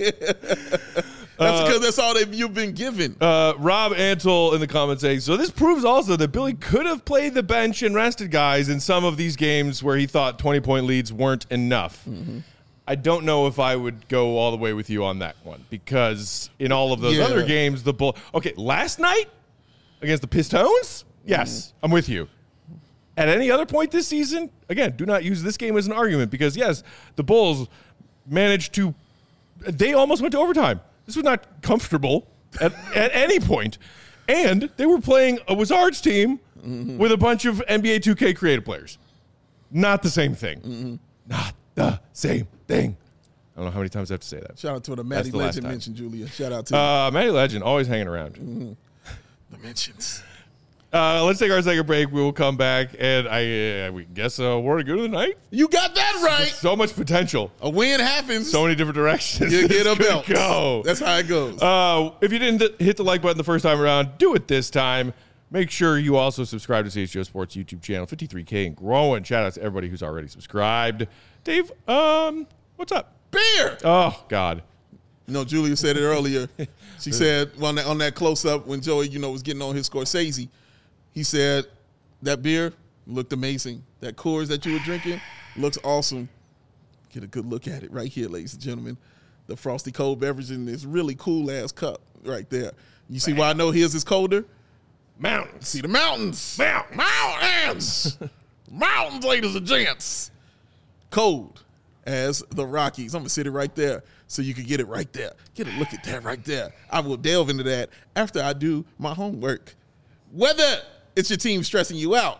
That's because that's all that you've been given. Uh, Rob Antle in the comments saying, so this proves also that Billy could have played the bench and rested guys in some of these games where he thought twenty-point leads weren't enough. Mm-hmm. I don't know if I would go all the way with you on that one because in all of those Yeah. other games, the Bull. Okay, last night against the Pistons, yes, I'm with you. At any other point this season, again, do not use this game as an argument because, yes, the Bulls managed to – they almost went to overtime. This was not comfortable at, at any point. And they were playing a Wizards team Mm-hmm. with a bunch of N B A two K creative players. Not the same thing. Mm-hmm. Not the same thing. I don't know how many times I have to say that. Shout out to the Matty the last Legend time. mention, Julia. Shout out to Uh, Matty Legend, always hanging around. the mentions. Uh, let's take our second break. We will come back, and I, uh, we guess uh, word of good of the night. You got that right. So much potential. A win happens. So many different directions. you get this a could belt. Go. That's how it goes. Uh, if you didn't th- hit the like button the first time around, do it this time. Make sure you also subscribe to C H G O Sports YouTube channel, fifty-three K and growing. Shout out to everybody who's already subscribed. Dave, um, what's up? Beer. Oh, God. You know, Julia said it earlier. She said on that, on that close-up when Joey, you know, was getting on his Scorsese, he said that beer looked amazing. That Coors that you were drinking looks awesome. Get a good look at it right here, ladies and gentlemen. The frosty cold beverage in this really cool-ass cup right there. You see why I know his is colder? Mountains. See the mountains. Mountains. Mountains. Mountains, ladies and gents. Cold as the Rockies. I'm going to sit it right there so you can get it right there. Get a look at that right there. I will delve into that after I do my homework. Whether it's your team stressing you out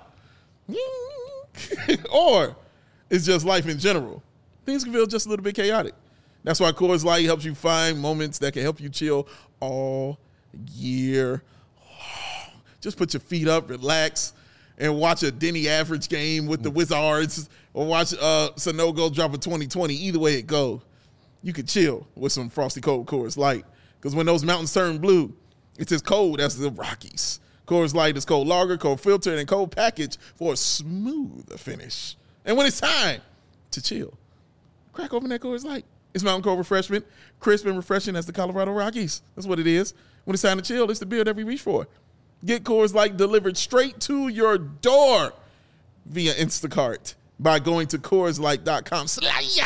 or it's just life in general, things can feel just a little bit chaotic. That's why Coors Light helps you find moments that can help you chill all year. Just put your feet up, relax, and watch a Denny Average game with the Wizards, or watch uh, Sanogo drop a twenty twenty. Either way it go, you could chill with some Frosty Cold Coors Light. Because when those mountains turn blue, it's as cold as the Rockies. Coors Light is cold lager, cold filtered, and cold packaged for a smooth finish. And when it's time to chill, crack open that Coors Light. It's Mountain Cold Refreshment, crisp and refreshing as the Colorado Rockies. That's what it is. When it's time to chill, it's the beer that we reach for. Get Coors Light delivered straight to your door via Instacart by going to CoorsLight.com slash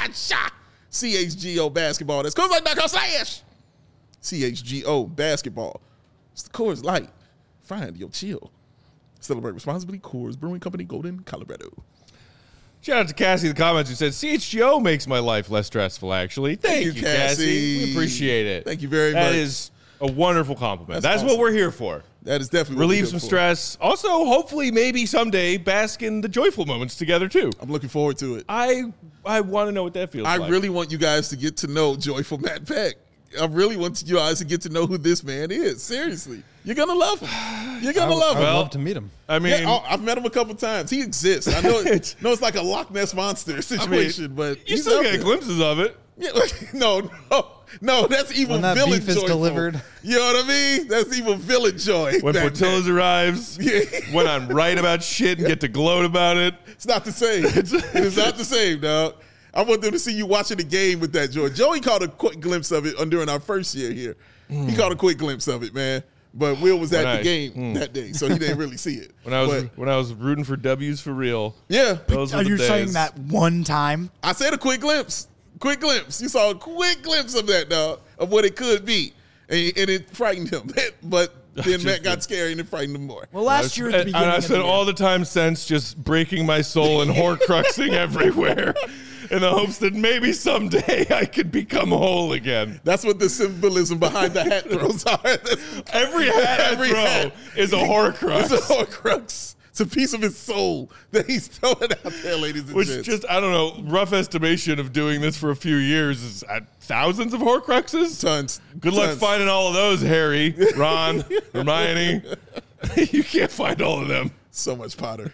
C H G O basketball. That's CoorsLight.com slash C H G O basketball. It's the Coors Light. Find your chill. Celebrate responsibly. Coors Brewing Company, Golden, Colorado. Shout out to Cassie in the comments who said, C H G O makes my life less stressful, actually. Thank, Thank you, you, Cassie. Cassie. We appreciate it. Thank you very That much. That is a wonderful compliment. That's That's, what awesome. we're here for. That is definitely what Relieve we're some for. stress. Also, hopefully, maybe someday bask in the joyful moments together, too. I'm looking forward to it. I I want to know what that feels I like. really want you guys to get to know Joyful Matt Peck. I really want you guys to get to know who this man is. Seriously. You're going to love him. You're going I, to love I him. would Well, love to meet him. I mean, Yeah, oh, I've met him a couple times. He exists. I know, it, know it's like a Loch Ness Monster situation, but you he's still out get there. glimpses of it. Yeah, no, no, no. That's evil When that villain beef is joyful. delivered. You know what I mean? That's evil villain joy. When That- Portillo's arrives, Yeah. when I'm right about shit and get to gloat about it. It's not the same. It is not the same, dog. I want them to see you watching the game with that joy. Joey caught a quick glimpse of it during our first year here. He caught a quick glimpse of it, man. But Will was at When the I- game mm. that day, so he didn't really see it. When I was But, when I was rooting for W's for real. yeah, Those were Are the you days. saying that one time? I said a quick glimpse. Quick glimpse. You saw a quick glimpse of that, dog, of what it could be. And, and it frightened him. But then Matt got scary and it frightened him more. Well, last year at the And beginning I of the spent year, all the time since just breaking my soul and horcruxing everywhere in the hopes that maybe someday I could become whole again. That's what the symbolism behind the hat throws are. Every hat I Every throw hat. is a horcrux. It's a Horcrux. It's a piece of his soul that he's throwing out there, ladies and Which gents. just, I don't know, rough estimation of doing this for a few years is at thousands of horcruxes? Tons. Good luck Tons. finding all of those, Harry, Ron, Hermione. You can't find all of them. So much Potter.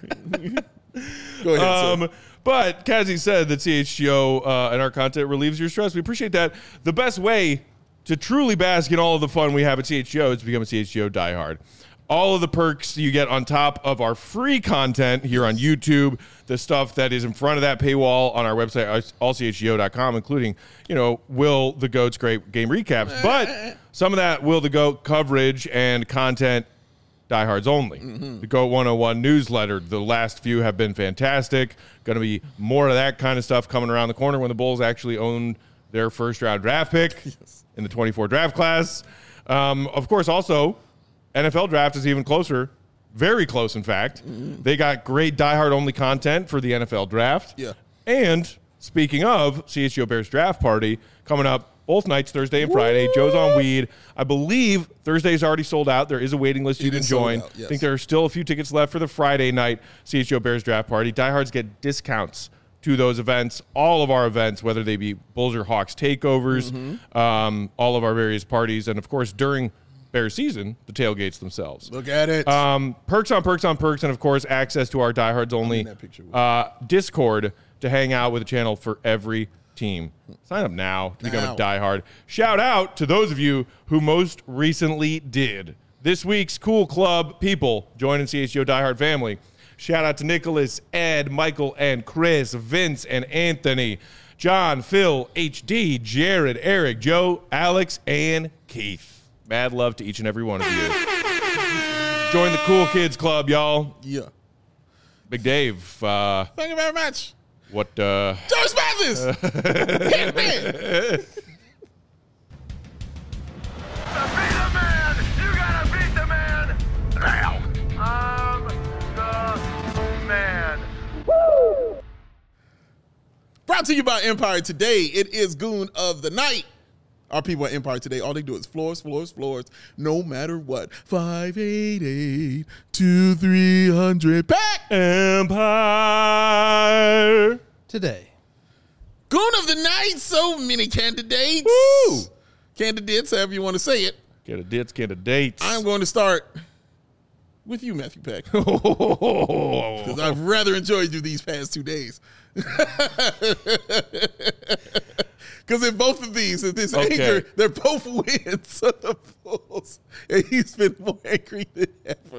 Go ahead, Um, but Kazi said that C H G O uh, and our content relieves your stress. We appreciate that. The best way to truly bask in all of the fun we have at C H G O is to become a C H G O diehard. All of the perks you get on top of our free content here on YouTube, the stuff that is in front of that paywall on our website, all C H G O dot com, including, you know, Will the Goat's great game recaps. But some of that Will the Goat coverage and content, diehards only. Mm-hmm. The Goat one oh one newsletter, the last few have been fantastic. Going to be more of that kind of stuff coming around the corner when the Bulls actually own their first round draft pick in the twenty-four draft class. Um, of course, also, N F L draft is even closer, very close, in fact. Mm-hmm. They got great diehard-only content for the N F L draft. Yeah. And speaking of C H G O Bears draft party, coming up both nights, Thursday and Friday. Joe's on weed. I believe Thursday's already sold out. There is a waiting list you It can is sold join. out, I yes. think there are still a few tickets left for the Friday night C H G O Bears draft party. Diehards get discounts to those events, all of our events, whether they be Bulls or Hawks takeovers, Mm-hmm. um, all of our various parties, and of course during Bears season, the tailgates themselves. Look at it. Um, perks on perks on perks, and of course, access to our diehards only that picture with uh, Discord to hang out with a channel for every team. Sign up now to become Now. a diehard. Shout out to those of you who most recently did. This week's Cool Club people joining C H G O diehard family. Shout out to Nicholas, Ed, Michael, and Chris, Vince, and Anthony, John, Phil, H D, Jared, Eric, Joe, Alex, and Keith. Mad love to each and every one of you. Join the Cool Kids Club, y'all. yeah. Big Dave, uh, Thank you very much. what, uh, George Mathis. Hit me. Be the man! You gotta beat the man! Now! I'm the man. Brought to you by Empire Today. It is Goon of the Night. Our people at Empire Today, all they do is floors, floors, floors, no matter what. five eight eight, two three hundred Pack! Empire. Today. Goon of the Night, so many candidates. Woo! Candidates, however you want to say it. Candidates, candidates. I'm going to start with you, Matthew Peck, because I've rather enjoyed you these past two days. Because in both of these, in this Okay. anger, they're both wins of the Bulls, and he's been more angry than ever.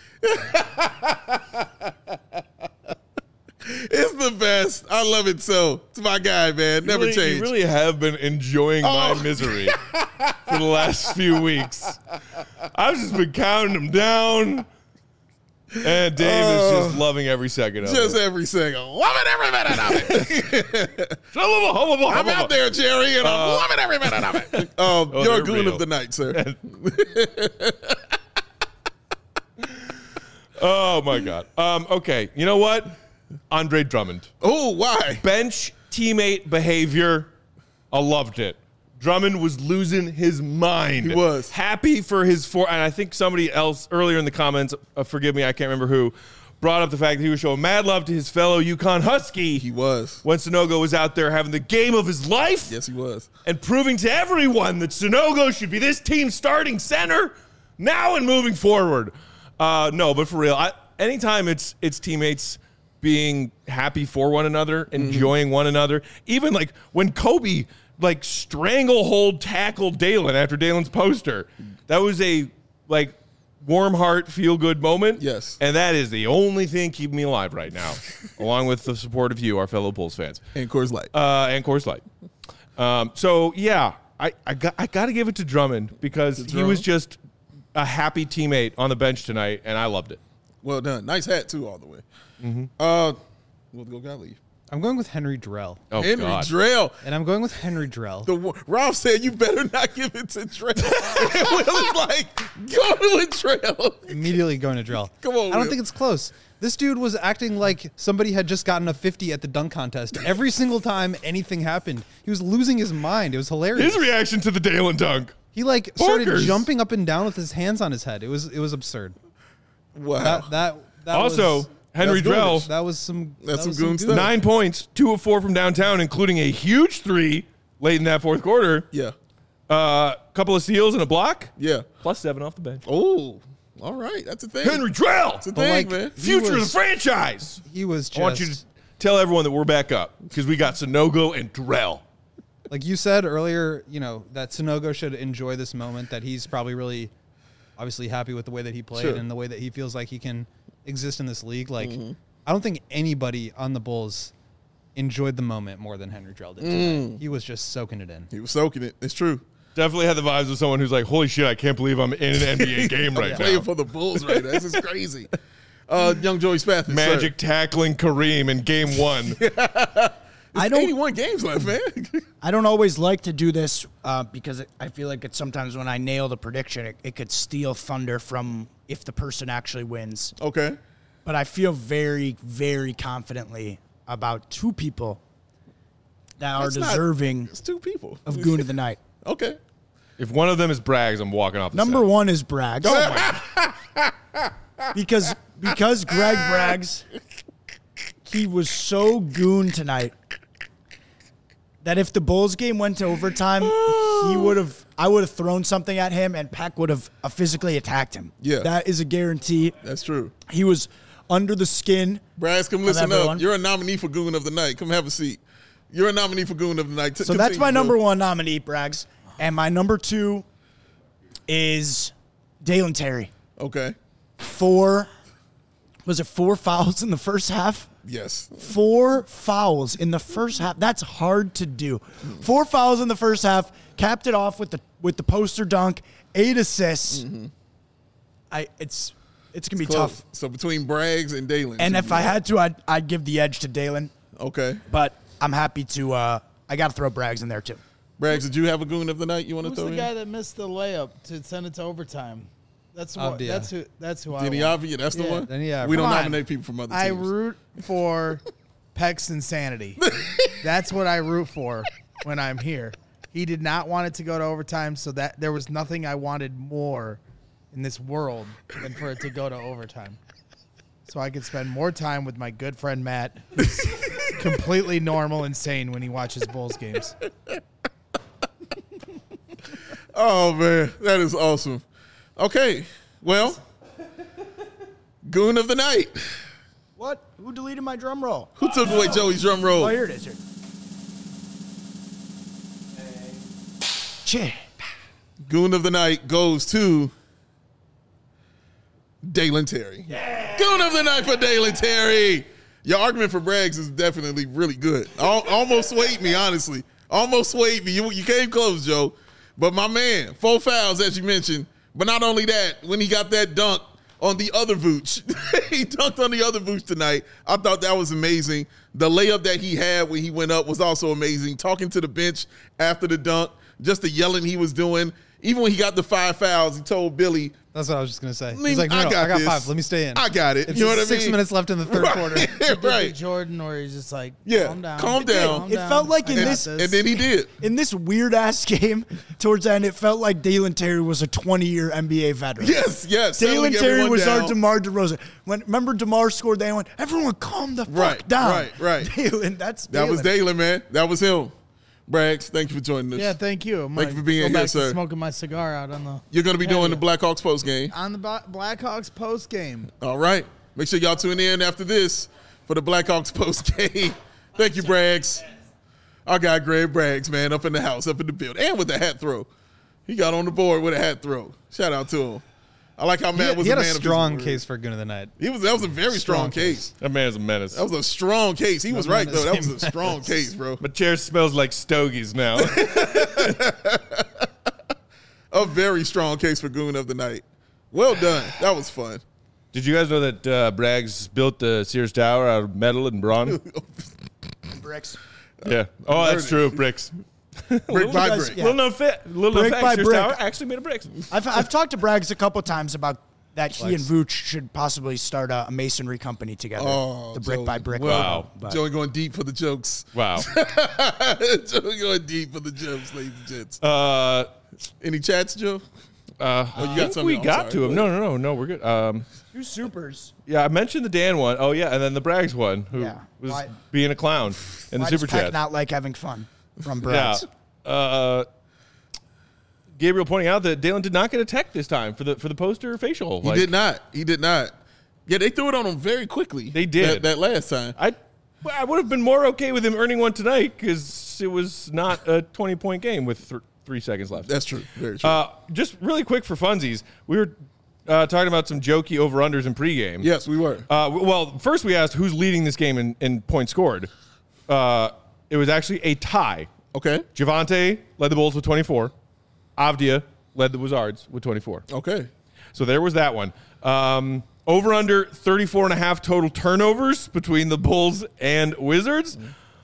It's the best. I love it so. It's my guy, man. You Never really, change. You really have been enjoying Oh. my misery for the last few weeks. I've just been counting them down. And Dave is just loving every second of Just it. every second. Loving every minute of it. I'm I'm out there, Jerry, and I'm Uh, loving every minute of it. Um, Oh, you're a they're goon real. of the night, sir. Oh, my God. Um, okay, you know what? Andre Drummond. Oh, why? Bench teammate behavior. I loved it. Drummond was losing his mind. He was. Happy for his four. And I think somebody else earlier in the comments, uh, forgive me, I can't remember who, brought up the fact that he was showing mad love to his fellow UConn Husky. He was. When Sonogo was out there having the game of his life. Yes, he was. And proving to everyone that Sonogo should be this team's starting center now and moving forward. Uh, no, but for real, I, anytime it's it's teammates being happy for one another, enjoying one another, even like when Kobe like stranglehold tackled Dalen after Dalen's poster, that was a like warm heart, feel good moment. Yes. And that is the only thing keeping me alive right now, along with the support of you, our fellow Bulls fans. And Coors Light. Uh, and Coors Light. Um, so yeah, I, I got I got to give it to Drummond because he Drummond? was just a happy teammate on the bench tonight, and I loved it. Well done. Nice hat, too, all the way. Mm-hmm. Uh, we'll go Gottlieb. I'm going with Henry Drell. Oh Henry God, Drell. And I'm going with Henry Drell. The one- Ralph said you better not give it to Drell. And Will is like, go with Drell. Immediately going to Drell. Come on, I don't Will. think it's close. This dude was acting like somebody had just gotten a fifty at the dunk contest. Every single time anything happened, he was losing his mind. It was hilarious. his reaction to the Dalen dunk. He like started Bonkers. jumping up and down with his hands on his head. It was it was absurd. Wow. That that that Also, was, Henry That's Drell, goonish. that was some That's that some was goon goon stuff. nine points, two of four from downtown, including a huge three late in that fourth quarter. yeah. A uh, couple of steals and a block, Yeah. plus seven off the bench. Oh, all right. That's a thing. Henry Drell, That's a But, thing, like, man. he future of was- the franchise. He was just I want you to tell everyone that we're back up because we got Sonogo and Drell. like you said earlier, you know, that Sonogo should enjoy this moment, that he's probably really obviously happy with the way that he played Sure. and the way that he feels like he can exist in this league. Like, Mm-hmm. I don't think anybody on the Bulls enjoyed the moment more than Henry Drell did Mm. tonight. He was just soaking it in. He was soaking it. It's true. Definitely had the vibes of someone who's like, holy shit, I can't believe I'm in an N B A game right Playing now. for the Bulls right now. This is crazy. Uh, young Joey Spath. Magic tackling Kareem in game one. I don't. eighty-one games left, man. I don't always like to do this uh, because it, I feel like it's sometimes when I nail the prediction, it, it could steal thunder from if the person actually wins. Okay. But I feel very, very confidently about two people that are That's not- deserving It's two people. of Goon of the Night. Okay. If one of them is Braggs, I'm walking off the Number set. one is Braggs. because because Greg Braggs, he was so goon tonight that if the Bulls game went to overtime, he would have. I would have thrown something at him, and Peck would have uh, physically attacked him. Yeah. that is a guarantee. That's true. He was under the skin. Brass, come listen everyone. up. You're a nominee for Goon of the Night. Come have a seat. You're a nominee for Goon of the Night. T- So that's continue, my Bill. number one nominee, Braggs, and my number two is Dalen Terry. Okay. Four. Was it four fouls in the first half? Yes. Four fouls in the first half. That's hard to do. Four fouls in the first half. Capped it off with the with the poster dunk. Eight assists. I it's it's gonna be Close. tough. So between Braggs and Dalen. And if I had to, I'd I'd give the edge to Dalen. Okay. But I'm happy to. Uh, I got to throw Braggs in there too. Braggs, did you have a Goon of the Night you want to Who's throw the in? guy that missed the layup to send it to overtime? That's what. Avdia. That's who. That's who I Denny want. Avdia, that's the Yeah. one? Then, yeah, we don't Come on. nominate people from other I teams. root for Peck's insanity. That's what I root for when I'm here. He did not want it to go to overtime, so that there was nothing I wanted more in this world than for it to go to overtime. So I could spend more time with my good friend Matt, who's completely normal and sane when he watches Bulls games. Oh, man. That is awesome. Okay. Well, Goon of the Night. What? Who deleted my drum roll? Who took away Joey's drum roll? Oh, here it is. Here. Chip. Goon of the Night goes to Dalen Terry. Yeah. Goon of the Night for Dalen Terry. Your argument for Braggs is definitely really good. Al- almost swayed me, honestly. Almost swayed me. You, you came close, Joe. But my man, four fouls, as you mentioned. But not only that, when he got that dunk on the other Vooch, he dunked on the other Vooch tonight. I thought that was amazing. The layup that he had when he went up was also amazing. Talking to the bench after the dunk, just the yelling he was doing. Even when he got the five fouls, he told Billy, That's what I was just gonna say. Leave- He's like, no, I no, got I got this. five. Let me stay in. I got it. It's You know what I six mean? minutes left in the third Right. quarter. He did the right. Jordan, where he's just like, Yeah, calm down. calm down. Calm It down. felt like I in got this- And then he did. In this weird ass game, towards the end, it felt like Dalen Terry was a twenty-year N B A veteran. Yes, yes. Dalen settling Terry everyone was down. our DeMar DeRozan. When remember DeMar scored, they went, everyone calm the fuck Right, down. right, right. Dalen, that's That was Dalen. Dalen, man. That was him. Braggs, thank you for joining us. Yeah, thank you. I'm Thank you gonna for being go here, back to sir. Smoking my cigar out on the You're going to be doing Hell the yeah. Blackhawks post game. on the Ba- Blackhawks post game. All right. Make sure y'all tune in after this for the Blackhawks post game. Thank you, Braggs. Our guy, Greg Braggs, man, up in the house, up in the build, and with the hat throw. He got on the board with a hat throw. Shout out to him. I like how He Matt had, was he a had a man of his strong word. case for Goon of the Night. He was. That was a very strong, Strong case. That man is a menace. That was a strong case. He was No right though. That menace, was a strong case, bro. My chair smells like stogies now. A very strong case for Goon of the Night. Well done. That was fun. Did you guys know that uh, Braggs built the Sears Tower out of metal and brawn? Bricks. Yeah. Oh, that's heard true. Bricks. Brick by guys- brick. yeah. Little known fit. Little known Brick fact. by Sears brick. Tower actually made of bricks. I've, I've talked to Braggs a couple times about that he and Vooch should possibly start a, a masonry company together. Oh, the brick Joey. by brick. Wow. logo. But Joey going deep for the jokes. Wow. Joey going deep for the jokes, ladies and gents. Uh, Any chats, Joe? uh, Oh, you I got think something? we I'm got sorry. to him. No, no, no, no. We're good. Um, two supers. yeah, I mentioned the Dan one. Oh, yeah, and then the Braggs one, who Yeah. was Why- being a clown in the Why super does Peck chat. not like having fun from Yeah. Braggs? Uh, Gabriel pointing out that Dalen did not get a tech this time for the for the poster facial. He Like, did not. He did not. Yeah, they threw it on him very quickly. They did. That, that last time. I I would have been more okay with him earning one tonight because it was not a twenty point game with th- three seconds left. That's true. Very true. Uh, just really quick for funsies, we were uh, talking about some jokey over unders in pregame. yes, we were. Uh, w- well, first we asked who's leading this game in, in points scored. Uh, it was actually a tie. Okay. Javante led the Bulls with twenty-four. Avdia led the Wizards with twenty-four. Okay. So there was that one. Um, over under thirty-four and a half total turnovers between the Bulls and Wizards.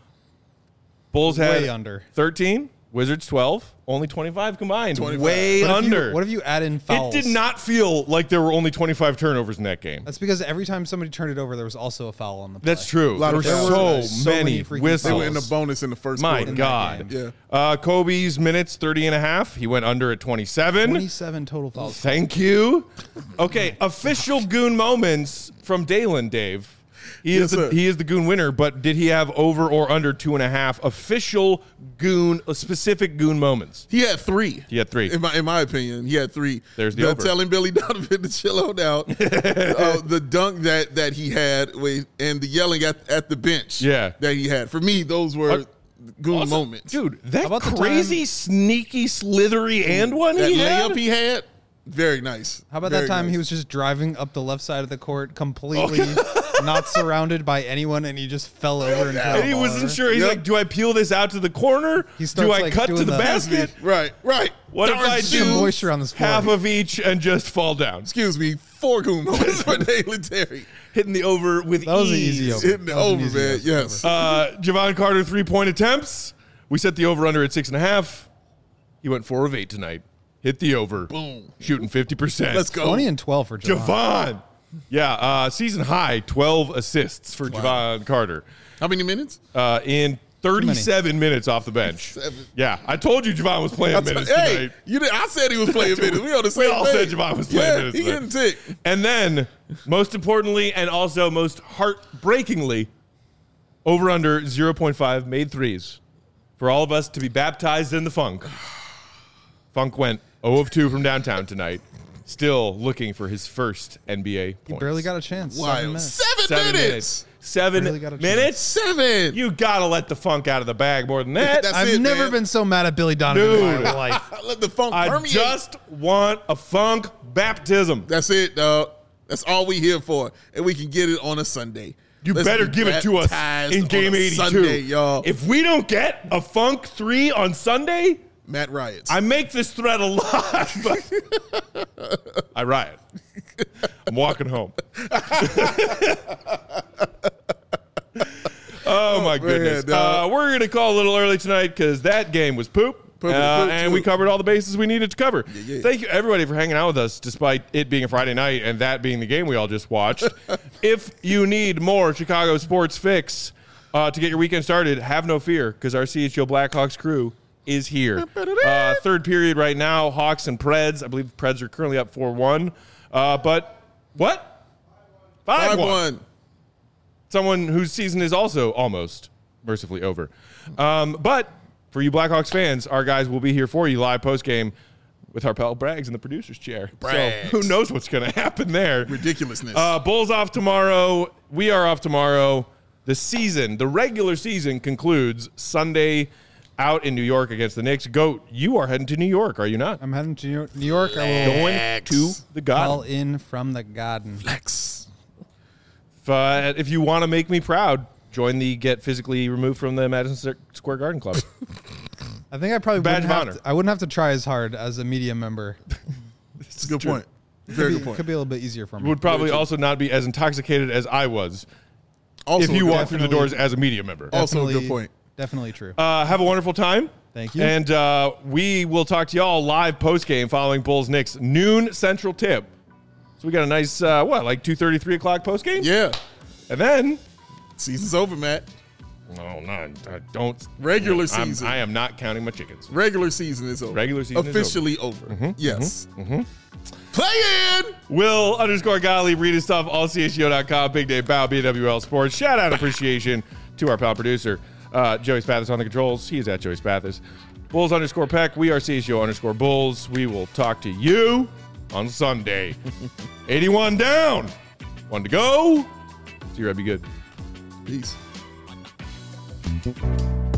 Bulls had Way under. thirteen, Wizards twelve, only twenty-five combined. twenty-five. Way What if you- under. what if you add in it fouls? did not feel like there were only twenty-five turnovers in that game. That's because every time somebody turned it over, there was also a foul on the play. That's true. lot There of were fouls. so, So many, many freaking whistles. They were in the bonus in the first My quarter. that God. game. Uh, Kobe's minutes, thirty and a half. He went under at twenty-seven. twenty-seven total fouls. Thank you. Okay, official goon moments from Dalen, Dave. He Yes, is the, sir. he is the goon winner, but did he have over or under two and a half official goon, uh, specific goon moments? He had three. He had three. In my in my opinion, he had three. There's the over. telling Billy Donovan to chill out. uh, the dunk that that he had with, and the yelling at, at the bench. Yeah. that he had. For me, those were Uh, goon Also, moments. Dude, that about the crazy, time- sneaky, slithery and one that he had? layup he had, very nice. How about Very that time nice. he was just driving up the left side of the court, completely not surrounded by anyone, and he just fell over and, And he wasn't sure. He's Yep. like, do I peel this out to the corner? He Do starts, I like, cut to doing the the- basket? right, right. What if Darn I shoes. do Some moisture on this floor. half of each and just fall down? Excuse me, four goon moments for Dalen Terry. Hitting the over with That was an ease. easy over. Hitting the That was an over, easy man. over. Yes. Uh, Javon Carter three-point attempts. We set the over-under at six and a half. He went four of eight tonight. Hit the over. Boom. Shooting fifty percent. Let's go. twenty and twelve for Javon. Javon. Yeah, uh, season high, twelve assists for Javon Carter How many minutes? uh, in thirty-seven minutes off the bench. Seven. Yeah, I told you Javon was playing minutes hey, tonight. you did, I said he was playing minutes. We on the same We all page. said Javon was playing yeah, minutes He tonight. getting tick. And then, most importantly, and also most heartbreakingly, over under zero point five made threes for all of us to be baptized in the funk. Funk went zero of two from downtown tonight. Still looking for his first N B A points. He barely got a chance. Seven Wild. minutes. Seven, Seven minutes. minutes. Seven Barely got a chance. minutes? Seven. You got to let the Funk out of the bag more than that. That's I've it, never man. been so mad at Billy Donovan Dude. in my life. Let the funk I permeate. just want a Funk baptism. That's it, dog. That's all we here for, and we can get it on a Sunday. You Let's better be give it to us baptized in on game a eighty-two. Sunday, y'all. If we don't get a Funk three on Sunday, Matt riots. I make this threat a lot, but I riot. I'm walking home. Oh, my goodness. man, uh, dog. we're going to call a little early tonight because that game was poop. Poop, uh, poop, and we poop. covered all the bases we needed to cover. yeah. Thank you, everybody, for hanging out with us, despite it being a Friday night and that being the game we all just watched. If you need more Chicago sports fix uh, to get your weekend started, have no fear, because our C H L Blackhawks crew is here. Uh, third period right now, Hawks and Preds. I believe the Preds are currently up four one. Uh, but what? Five five one. one. Someone whose season is also almost mercifully over. Um, but for you Blackhawks fans, our guys will be here for you live post-game with our pal Braggs in the producer's chair. Braggs. So who knows what's going to happen there. Ridiculousness. Uh, Bulls off tomorrow. We are off tomorrow. The season, the regular season concludes Sunday out in New York against the Knicks. Goat, you are heading to New York, are you not? I'm heading to New York. New York. I will Going to the call God. in from the garden. Flex. If, uh, if you want to make me proud, join the Get Physically Removed from the Madison Square Garden Club. I think I probably Badge wouldn't of have honor. to, I wouldn't have to try as hard as a media member. It's a good true. point. Very Could good be, point. could be a little bit easier for me. Would probably also not be as intoxicated as I was Also if a you good- walked through the Definitely. doors as a media member. Also a good Definitely- point. Definitely true. Uh, have a wonderful time. Thank you. And uh, we will talk to y'all live post-game following Bulls Knicks noon Central tip. So we got a nice, uh, what, like two thirty, three o'clock post-game? Yeah. And then, Season's over, Matt. no, not, I don't. Regular I'm- season. I am not counting my chickens. Regular season is over. Regular season is Officially over. Yes. Play in. Will underscore Gottlieb, read his stuff, all C H G O dot com, Big Day Bow, B W L Sports. Shout out appreciation to our pal producer, uh, Joey Spathis on the controls. He is at Joey Spathis. Bulls underscore Peck. We are C H G O underscore Bulls. We will talk to you on Sunday. eighty-one down. One to go. See you, Red. Be good. Peace.